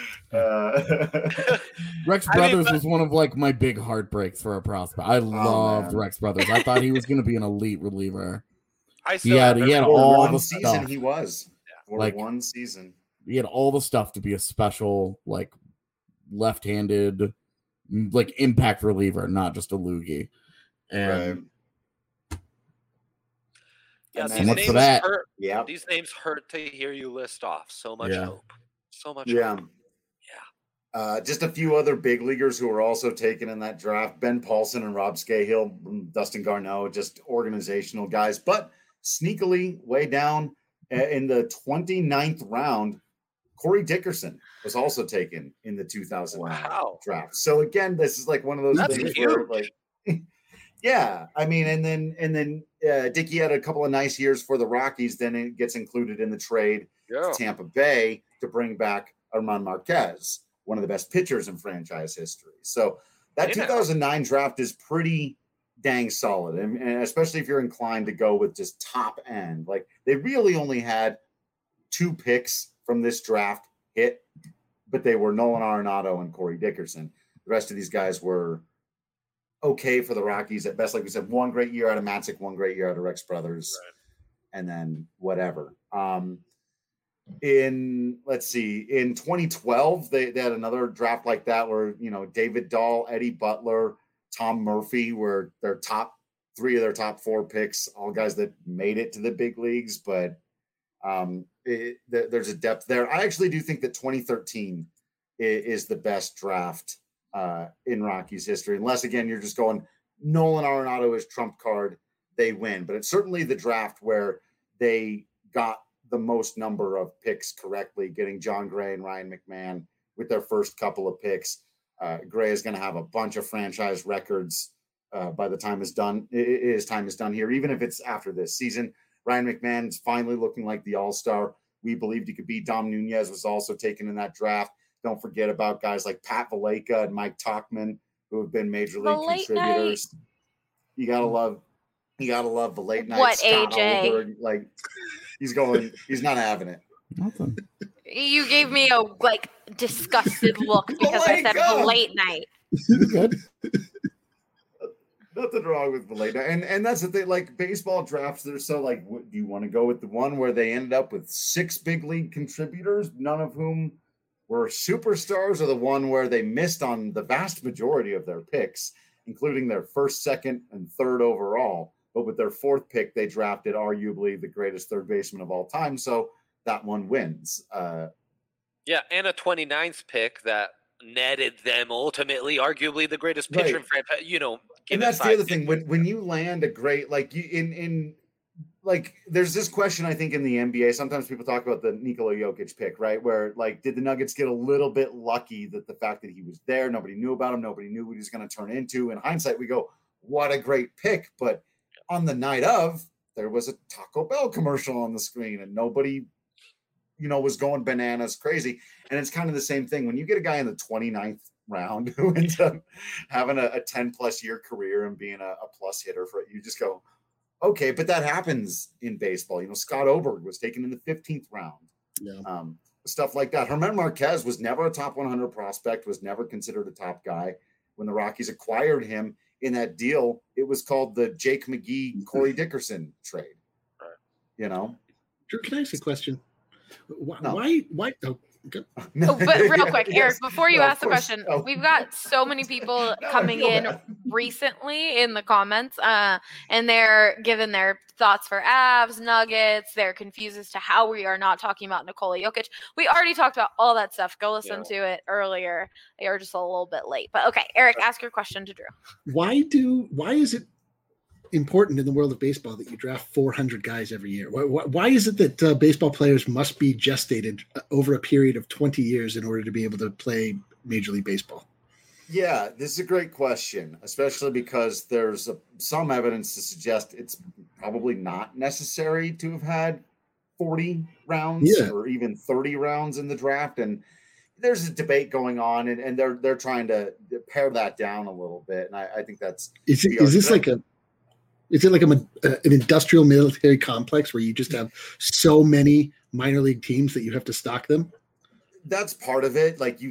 it. Rex Brothers was one of my big heartbreaks for a prospect. I loved Rex Brothers. I thought he was going to be an elite reliever. I He still had have all one the season stuff. he was. For Like- one season. He had all the stuff to be a special, like, left-handed, like, impact reliever, not just a loogie. And Yeah, And these then much names for that. hurt. Yeah. These names hurt to hear you list off. So much Yeah. hope. So much Yeah. hope. Just a few other big leaguers who were also taken in that draft. Ben Paulson and Rob Scahill, Dustin Garneau, just organizational guys. But sneakily, way down in the 29th round, Corey Dickerson was also taken in the 2009 Wow. draft. So again, this is like one of those That's things huge. where, like, yeah, I mean, and then Dickey had a couple of nice years for the Rockies. Then it gets included in the trade Yeah. to Tampa Bay to bring back Armand Marquez, one of the best pitchers in franchise history. So that Hey, now. 2009 draft is pretty dang solid, and especially if you're inclined to go with just top end. Like, they really only had 2 picks from this draft hit, but they were Nolan Arenado and Corey Dickerson. The rest of these guys were okay for the Rockies at best. Like we said, one great year out of Matzik, one great year out of Rex Brothers, and then whatever. In 2012, they had another draft like that where, you know, David Dahl, Eddie Butler, Tom Murphy were their top 3 of their top 4 picks, all guys that made it to the big leagues. But there's a depth there. I actually do think that 2013 is the best draft in Rockies history, unless again you're just going Nolan Arenado is trump card, they win. But it's certainly the draft where they got the most number of picks correctly, getting John Gray and Ryan McMahon with their first couple of picks. Gray is going to have a bunch of franchise records by the time his time is done here, even if it's after this season. Ryan McMahon's finally looking like the all-star we believed he could be. Dom Nunez was also taken in that draft. Don't forget about guys like Pat Valaika and Mike Tauchman, who have been major league contributors. You gotta love the late night. What, Scott AJ? Olberg, like he's not having it. Nothing. You gave me a disgusted look because I said Valaika! late night. Good. Nothing wrong with Valaika. And that's the thing, like baseball drafts, they're so like, do you want to go with the one where they ended up with 6 big league contributors, none of whom were superstars, or the one where they missed on the vast majority of their picks, including their first, second, and third overall. But with their 4th pick, they drafted arguably the greatest third baseman of all time. So that one wins. Yeah, and a 29th pick that netted them ultimately, arguably the greatest pitcher in franchise. You know, and that's the other thing. When you land a great, like you in like, there's this question I think in the NBA. Sometimes people talk about the Nikola Jokic pick, right? Where like, did the Nuggets get a little bit lucky that the fact that he was there, nobody knew about him, nobody knew what he was going to turn into. In hindsight, we go, what a great pick. But on the night of, there was a Taco Bell commercial on the screen, and nobody, you know, was going bananas crazy. And it's kind of the same thing when you get a guy in the 29th round who ends up having a 10+ year career and being a plus hitter for it. You just go, okay, but that happens in baseball. You know, Scott Oberg was taken in the 15th round. Yeah. Stuff like that. Herman Marquez was never a top 100 prospect, was never considered a top guy. When the Rockies acquired him in that deal, it was called the Jake McGee, Corey Dickerson trade. Right. You know? Drew, can I ask a question? Why? No. Why? Oh, okay. Oh, but real quick, Yes. Eric, before you No, of ask the course. question, Oh. we've got so many people No, I coming feel in bad. recently in the comments, and they're giving their thoughts for Avs, Nuggets. They're confused as to how we are not talking about Nikola Jokic. We already talked about all that stuff. Go listen to it earlier. They were just a little bit late. But okay, Eric, ask your question to Drew. Why is it important in the world of baseball that you draft 400 guys every year? Why is it that baseball players must be gestated over a period of 20 years in order to be able to play Major League Baseball? Yeah, this is a great question, especially because there's some evidence to suggest it's probably not necessary to have had 40 rounds or even 30 rounds in the draft. And there's a debate going on, and they're trying to pare that down a little bit. And I think that's Is it like an industrial military complex where you just have so many minor league teams that you have to stock them? That's part of it. Like you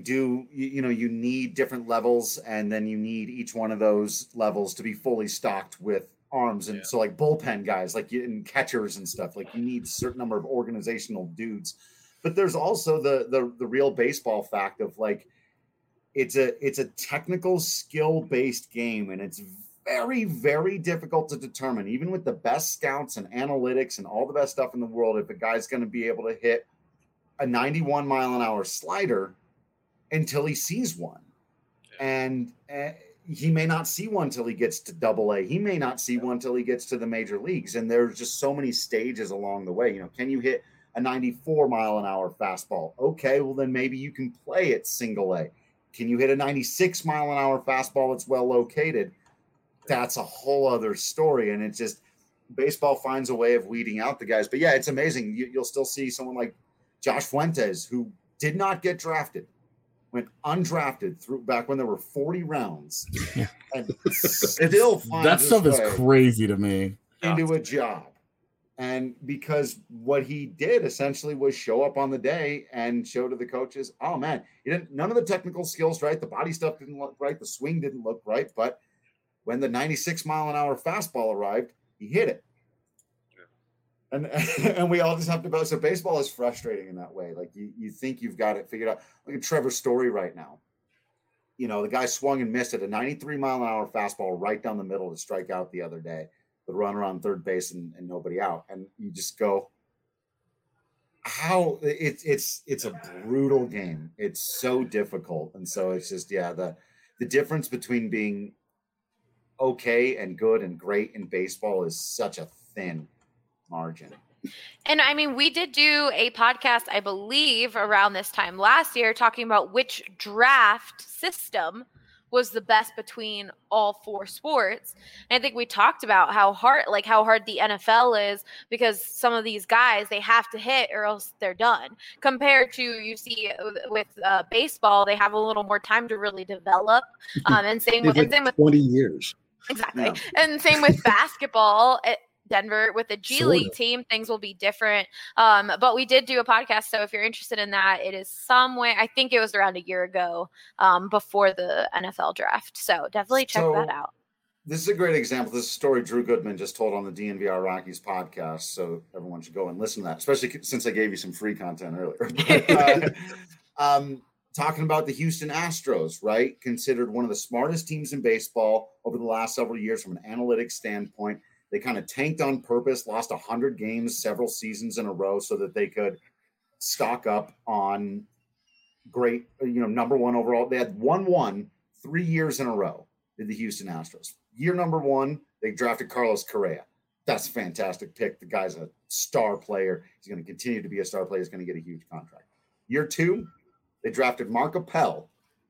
need different levels, and then you need each one of those levels to be fully stocked with arms, and so like bullpen guys, like and catchers and stuff. Like you need a certain number of organizational dudes. But there's also the real baseball fact of like it's a technical skill based game, and it's very, very difficult to determine, even with the best scouts and analytics and all the best stuff in the world, if a guy's going to be able to hit a 91 mile an hour slider until he sees one. And he may not see one till he gets to AA. He may not see one till he gets to the major leagues. And there's just so many stages along the way. You know, can you hit a 94 mile an hour fastball? Okay, well then maybe you can play at single A. Can you hit a 96 mile an hour fastball that's well located? That's a whole other story. And it's just baseball finds a way of weeding out the guys. But yeah, it's amazing. You'll still see someone like Josh Fuentes, who did not get drafted, went undrafted through back when there were 40 rounds, and still finds that stuff is way crazy to me. into a job. And because what he did essentially was show up on the day and show to the coaches, oh man, none of the technical skills right, the body stuff didn't look right, the swing didn't look right, but when the 96 mile an hour fastball arrived, he hit it. And we all just have to go. So baseball is frustrating in that way. Like you think you've got it figured out. Look at Trevor Story right now. You know, the guy swung and missed at a 93 mile an hour fastball right down the middle to strike out the other day. The runner on third base and nobody out. And you just go, how it's a brutal game. It's so difficult. And so it's just, the difference between being okay and good and great in baseball is such a thin margin. And I mean, we did do a podcast, I believe, around this time last year talking about which draft system was the best between all four sports. And I think we talked about how hard the NFL is, because some of these guys, they have to hit or else they're done. Compared to, you see with baseball, they have a little more time to really develop. And same with 20 years. Exactly. Yeah. And same with basketball at Denver with the G League team, things will be different. But we did do a podcast. So if you're interested in that, it is somewhere, I think it was around a year ago, before the NFL draft. So definitely check that out. This is a great example. This is a story Drew Goodman just told on the DNVR Rockies podcast. So everyone should go and listen to that, especially since I gave you some free content earlier. Talking about the Houston Astros, right? Considered one of the smartest teams in baseball over the last several years from an analytics standpoint. They kind of tanked on purpose, lost 100 games several seasons in a row so that they could stock up on great, number one overall. They had 1-1 3 years in a row, did the Houston Astros. Year number one, they drafted Carlos Correa. That's a fantastic pick. The guy's a star player. He's going to continue to be a star player. He's going to get a huge contract. Year two, they drafted Mark Appel,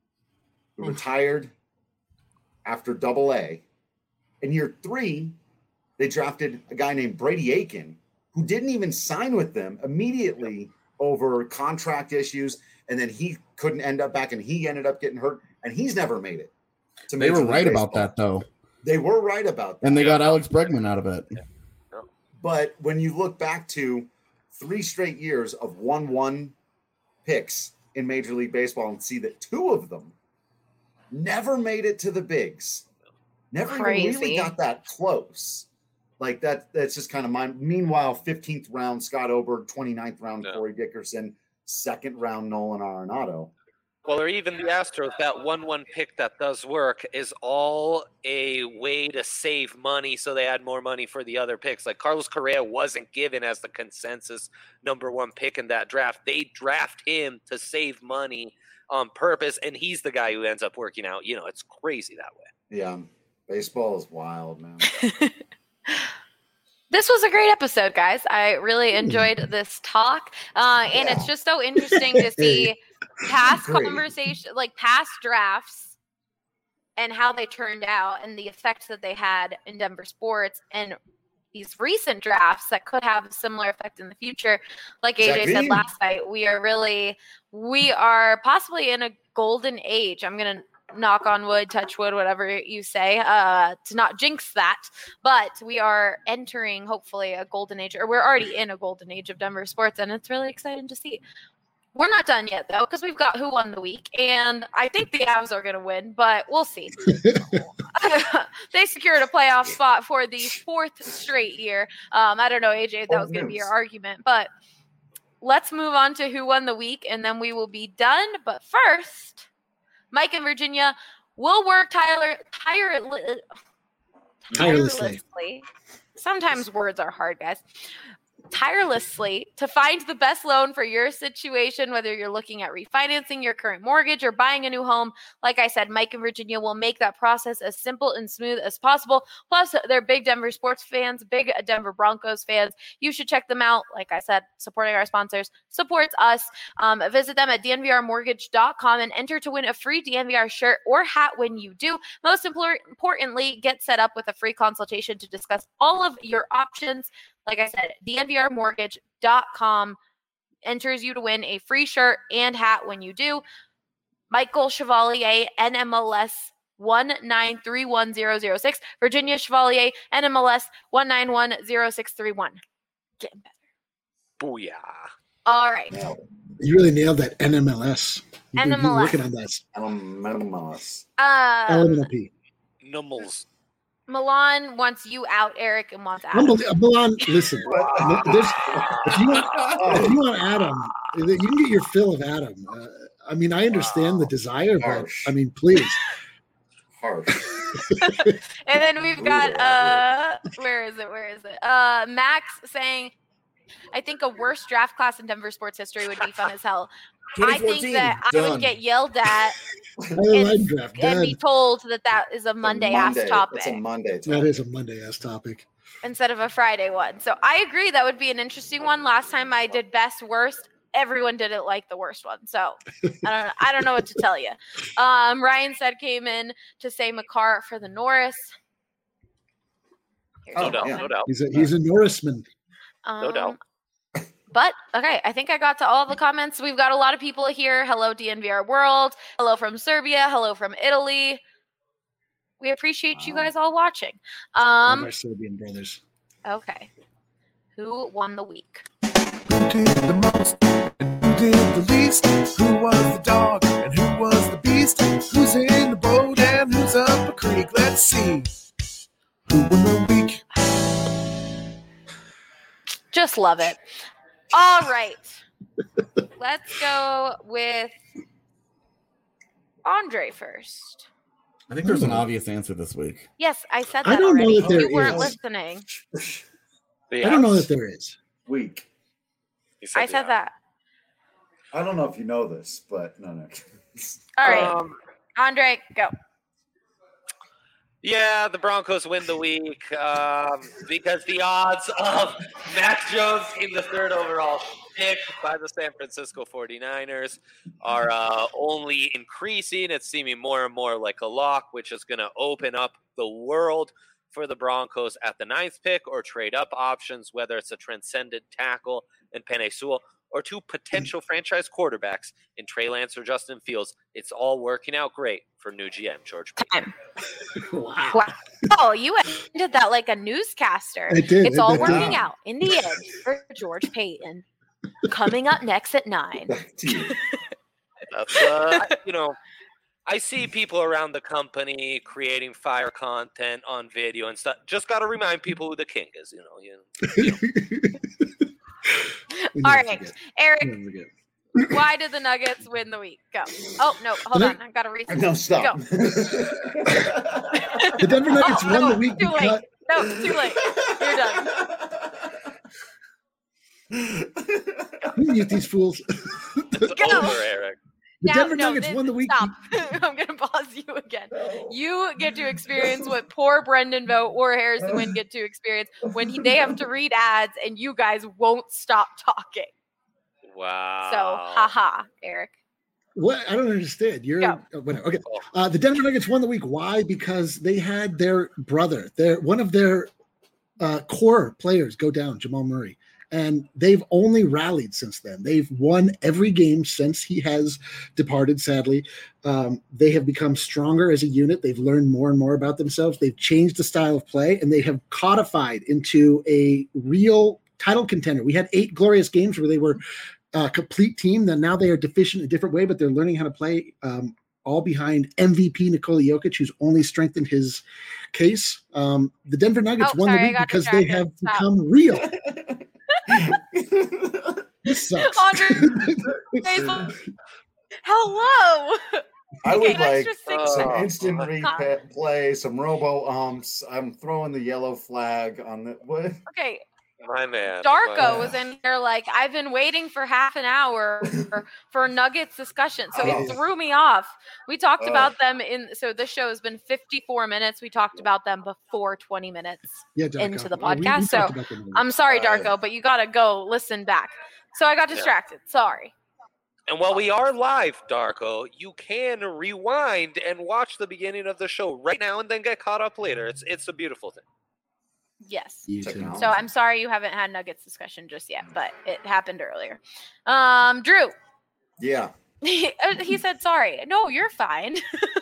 who retired after AA. In year three, they drafted a guy named Brady Aiken, who didn't even sign with them immediately over contract issues. And then he couldn't end up back, and he ended up getting hurt, and he's never made it. They were right about that, though. They were right about that. And they got Alex Bregman out of it. Yeah. But when you look back to 3 straight years of 1-1 picks in Major League Baseball and see that 2 of them never made it to the bigs, never even really got that close. Like that's just kind of mine. Meanwhile, 15th round Scott Oberg, 29th round Corey Dickerson, 2nd round Nolan Arenado. Well, or even the Astros, that 1-1 pick that does work is all a way to save money so they had more money for the other picks. Like Carlos Correa wasn't given as the consensus number 1 pick in that draft. They draft him to save money on purpose, and he's the guy who ends up working out. It's crazy that way. Yeah, baseball is wild, man. This was a great episode, guys. I really enjoyed this talk. And it's just so interesting to see past conversation, like past drafts and how they turned out and the effects that they had in Denver sports, and these recent drafts that could have a similar effect in the future. Like AJ said last night, we are possibly in a golden age. I'm going to knock on wood, touch wood, whatever you say, to not jinx that. But we are entering, hopefully, a golden age, or we're already in a golden age of Denver sports, and it's really exciting to see. We're not done yet, though, because we've got Who Won the Week, and I think the Avs are going to win, but we'll see. they secured a playoff spot for the 4th straight year. I don't know, AJ, if that was going to be your argument, but let's move on to who won the week, and then we will be done. But first, Mike and Virginia will work tirelessly. Sometimes words are hard, guys. Tirelessly to find the best loan for your situation, whether you're looking at refinancing your current mortgage or buying a new home. Like I said, Mike and Virginia will make that process as simple and smooth as possible. Plus, they're big Denver sports fans, big Denver Broncos fans. You should check them out. Like I said, supporting our sponsors supports us. Visit them at dnvrmortgage.com and enter to win a free DNVR shirt or hat when you do. Most importantly, get set up with a free consultation to discuss all of your options. Like I said, dnvrmortgage.com enters you to win a free shirt and hat when you do. Michael Chevalier, NMLS 1931006. Virginia Chevalier, NMLS 1910631. Getting better. Booyah. All right. You really nailed that NMLS. You've been NMLS. working on that. MLS. LMNP. Nummels. Milan wants you out, Eric, and wants Adam. Milan, listen. If you want Adam, you can get your fill of Adam. I mean, I understand the desire, Harsh. but I mean, please. Harsh. And then we've got where is it? Max saying, I think a worse draft class in Denver sports history would be fun as hell. I think that I would get yelled at and be told that is a Monday ass topic. It's a Monday topic. That is a Monday ass topic. Instead of a Friday one. So I agree that would be an interesting one. Last time I did best worst, everyone didn't like the worst one. So I don't know what to tell you. Ryan said came in to say McCarr for the Norris. No doubt. He's a Norrisman. No doubt. But, okay, I think I got to all the comments. We've got a lot of people here. Hello, DNVR World. Hello from Serbia. Hello from Italy. We appreciate you guys all watching. Our Serbian brothers. Okay. Who won the week? Who did the most and who did the least? Who was the dog and who was the beast? Who's in the boat and who's up a creek? Let's see. Who won the week? Just love it. All right. Let's go with Andre first. I think there's an obvious answer this week. Yes, I said I that don't know already. that there You weren't is. listening. I don't know that there is. Week. I said that. I don't know if you know this, but no. All right. Andre, go. Yeah, the Broncos win the week because the odds of Mac Jones in the 3rd overall pick by the San Francisco 49ers are only increasing. It's seeming more and more like a lock, which is going to open up the world for the Broncos at the 9th pick or trade up options, whether it's a transcendent tackle in Penei Sewell or 2 potential franchise quarterbacks in Trey Lance or Justin Fields. It's all working out great for new GM George Payton. Wow. Oh, you ended that like a newscaster. I did. It's all working out in the end for George Payton. Coming up next at 9. That's, I see people around the company creating fire content on video and stuff. Just got to remind people who the king is, All right, Eric, why did the Nuggets win the week? Go. Oh, no, hold on. I've got to reset. No, stop. Go. The Denver Nuggets won the week. Too late. No, too late. You're done. Mute these fools. It's Go. over, Eric. The Denver Nuggets won the week. Stop. I'm going to pause you again. You get to experience what poor Brendan Vogt or Harrison Wind get to experience when they have to read ads and you guys won't stop talking. Wow. So, haha, Eric. What? I don't understand. Whatever. Okay. The Denver Nuggets won the week. Why? Because they had their brother, one of their core players go down, Jamal Murray. And they've only rallied since then. They've won every game since he has departed, sadly. They have become stronger as a unit. They've learned more and more about themselves. They've changed the style of play, and they have codified into a real title contender. We had 8 glorious games where they were a complete team. Then now they are deficient in a different way, but they're learning how to play all behind MVP Nikola Jokic, who's only strengthened his case. The Denver Nuggets won the week because they have become real. This sucks. Hello. I would like extra some instant replay, some robo-umps. I'm throwing the yellow flag on the what? Okay. My man. Darko was in there like, I've been waiting for half an hour for Nuggets discussion. So it threw me off. We talked about them so this show has been 54 minutes. We talked about them before 20 minutes into the podcast. So I'm sorry, Darko, but you got to go listen back. So I got distracted. Sorry. And while we are live, Darko, you can rewind and watch the beginning of the show right now and then get caught up later. It's a beautiful thing. Yes. So I'm sorry you haven't had Nuggets discussion just yet, but it happened earlier. Drew. Yeah. He said sorry. No, you're fine.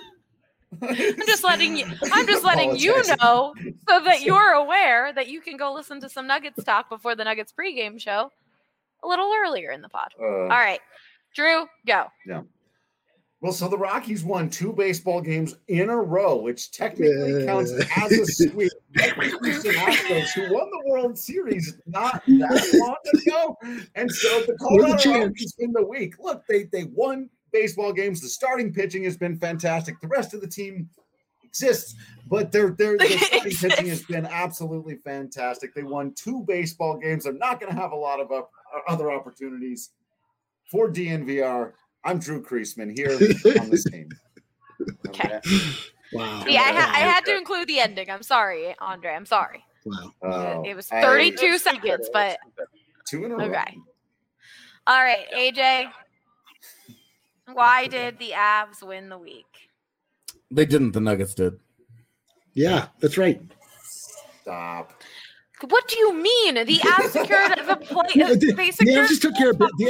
I'm just letting you know so that you're aware that you can go listen to some Nuggets talk before the Nuggets pregame show a little earlier in the pod. All right. Drew, go. Yeah. Well, so the Rockies won 2 baseball games in a row, which technically counts as a sweep. Houston Astros, who won the World Series not that long ago, and so the Colorado Rockies win the week. Look, they won baseball games. The starting pitching has been fantastic. The rest of the team exists, but their starting pitching has been absolutely fantastic. They won 2 baseball games. They're not going to have a lot of other opportunities for DNVR. I'm Drew Kreisman here on this team. Okay. Wow. Yeah, I had to include the ending. I'm sorry, Andre. I'm sorry. Wow. It was 32 seconds, but 2 in a row. Okay. All right, AJ. Why did the Avs win the week? They didn't. The Nuggets did. Yeah, that's right. Stop. What do you mean? The Avs secured the play. The Avs just took care of business.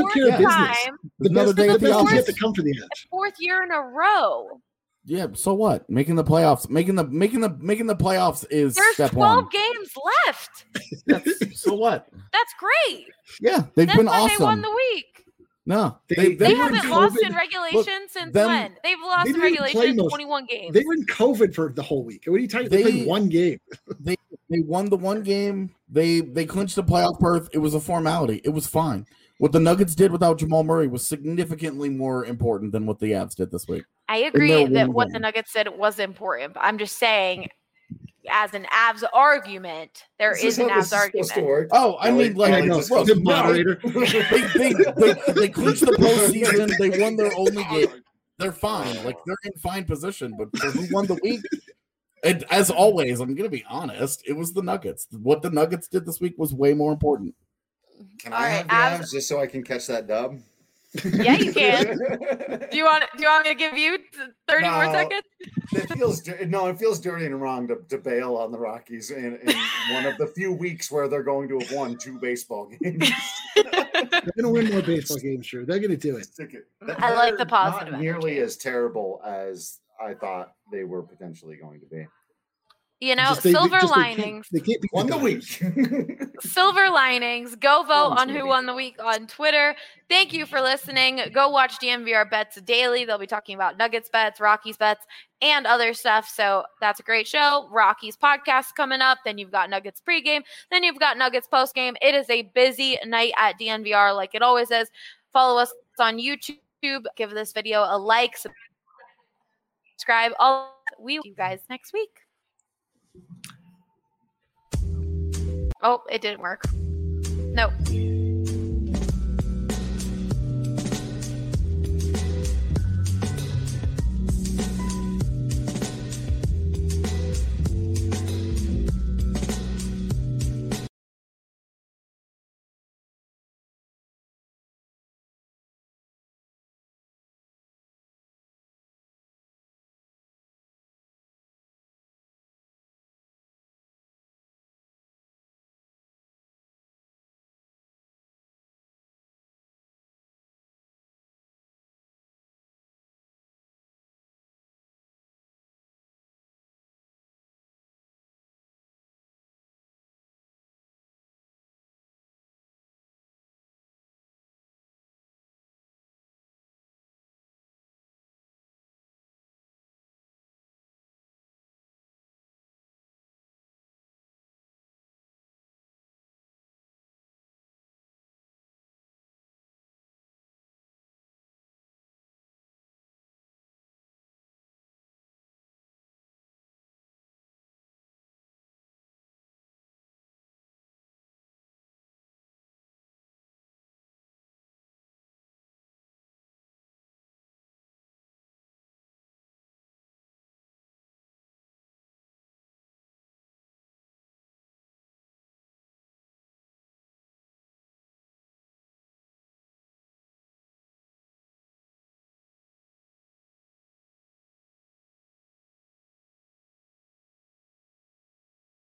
The best is yet to come for the Avs. 4th year in a row. Yeah. So what? Making the playoffs. Making the playoffs is There's step 12 one. games left. So what? That's great. Yeah, they've That's been why awesome. they won the week. No, They haven't lost in regulation since when? They've lost in regulation 21 games. They were in COVID for the whole week. What are you talking about? They played one game. They won the one game. They clinched the playoff berth. It was a formality. It was fine. What the Nuggets did without Jamal Murray was significantly more important than what the Avs did this week. I agree that what the Nuggets did was important, but I'm just saying, as an Avs argument, there is an Avs argument. Oh, I mean, like, look, the moderator. They clinched the postseason. They won their only game. They're fine. Like, they're in fine position. But for who won the week? And as always, I'm going to be honest, it was the Nuggets. What the Nuggets did this week was way more important. Can I have the Avs just so I can catch that dub? Yeah, you can. Do you want me to give you 30 more seconds? It feels dirty and wrong to bail on the Rockies in one of the few weeks where they're going to have won 2 baseball games. They're going to win more baseball games, sure. They're going to do it. I like the positive. Not nearly as terrible as I thought they were potentially going to be. You know, silver linings. They can't be won the week. Silver linings. Go vote on who won the week on Twitter. Thank you for listening. Go watch DNVR Bets Daily. They'll be talking about Nuggets bets, Rockies bets, and other stuff. So that's a great show. Rockies podcast coming up. Then you've got Nuggets pregame. Then you've got Nuggets postgame. It is a busy night at DNVR like it always is. Follow us on YouTube. Give this video a like. Subscribe. We will see you guys next week. Oh, it didn't work. Nope.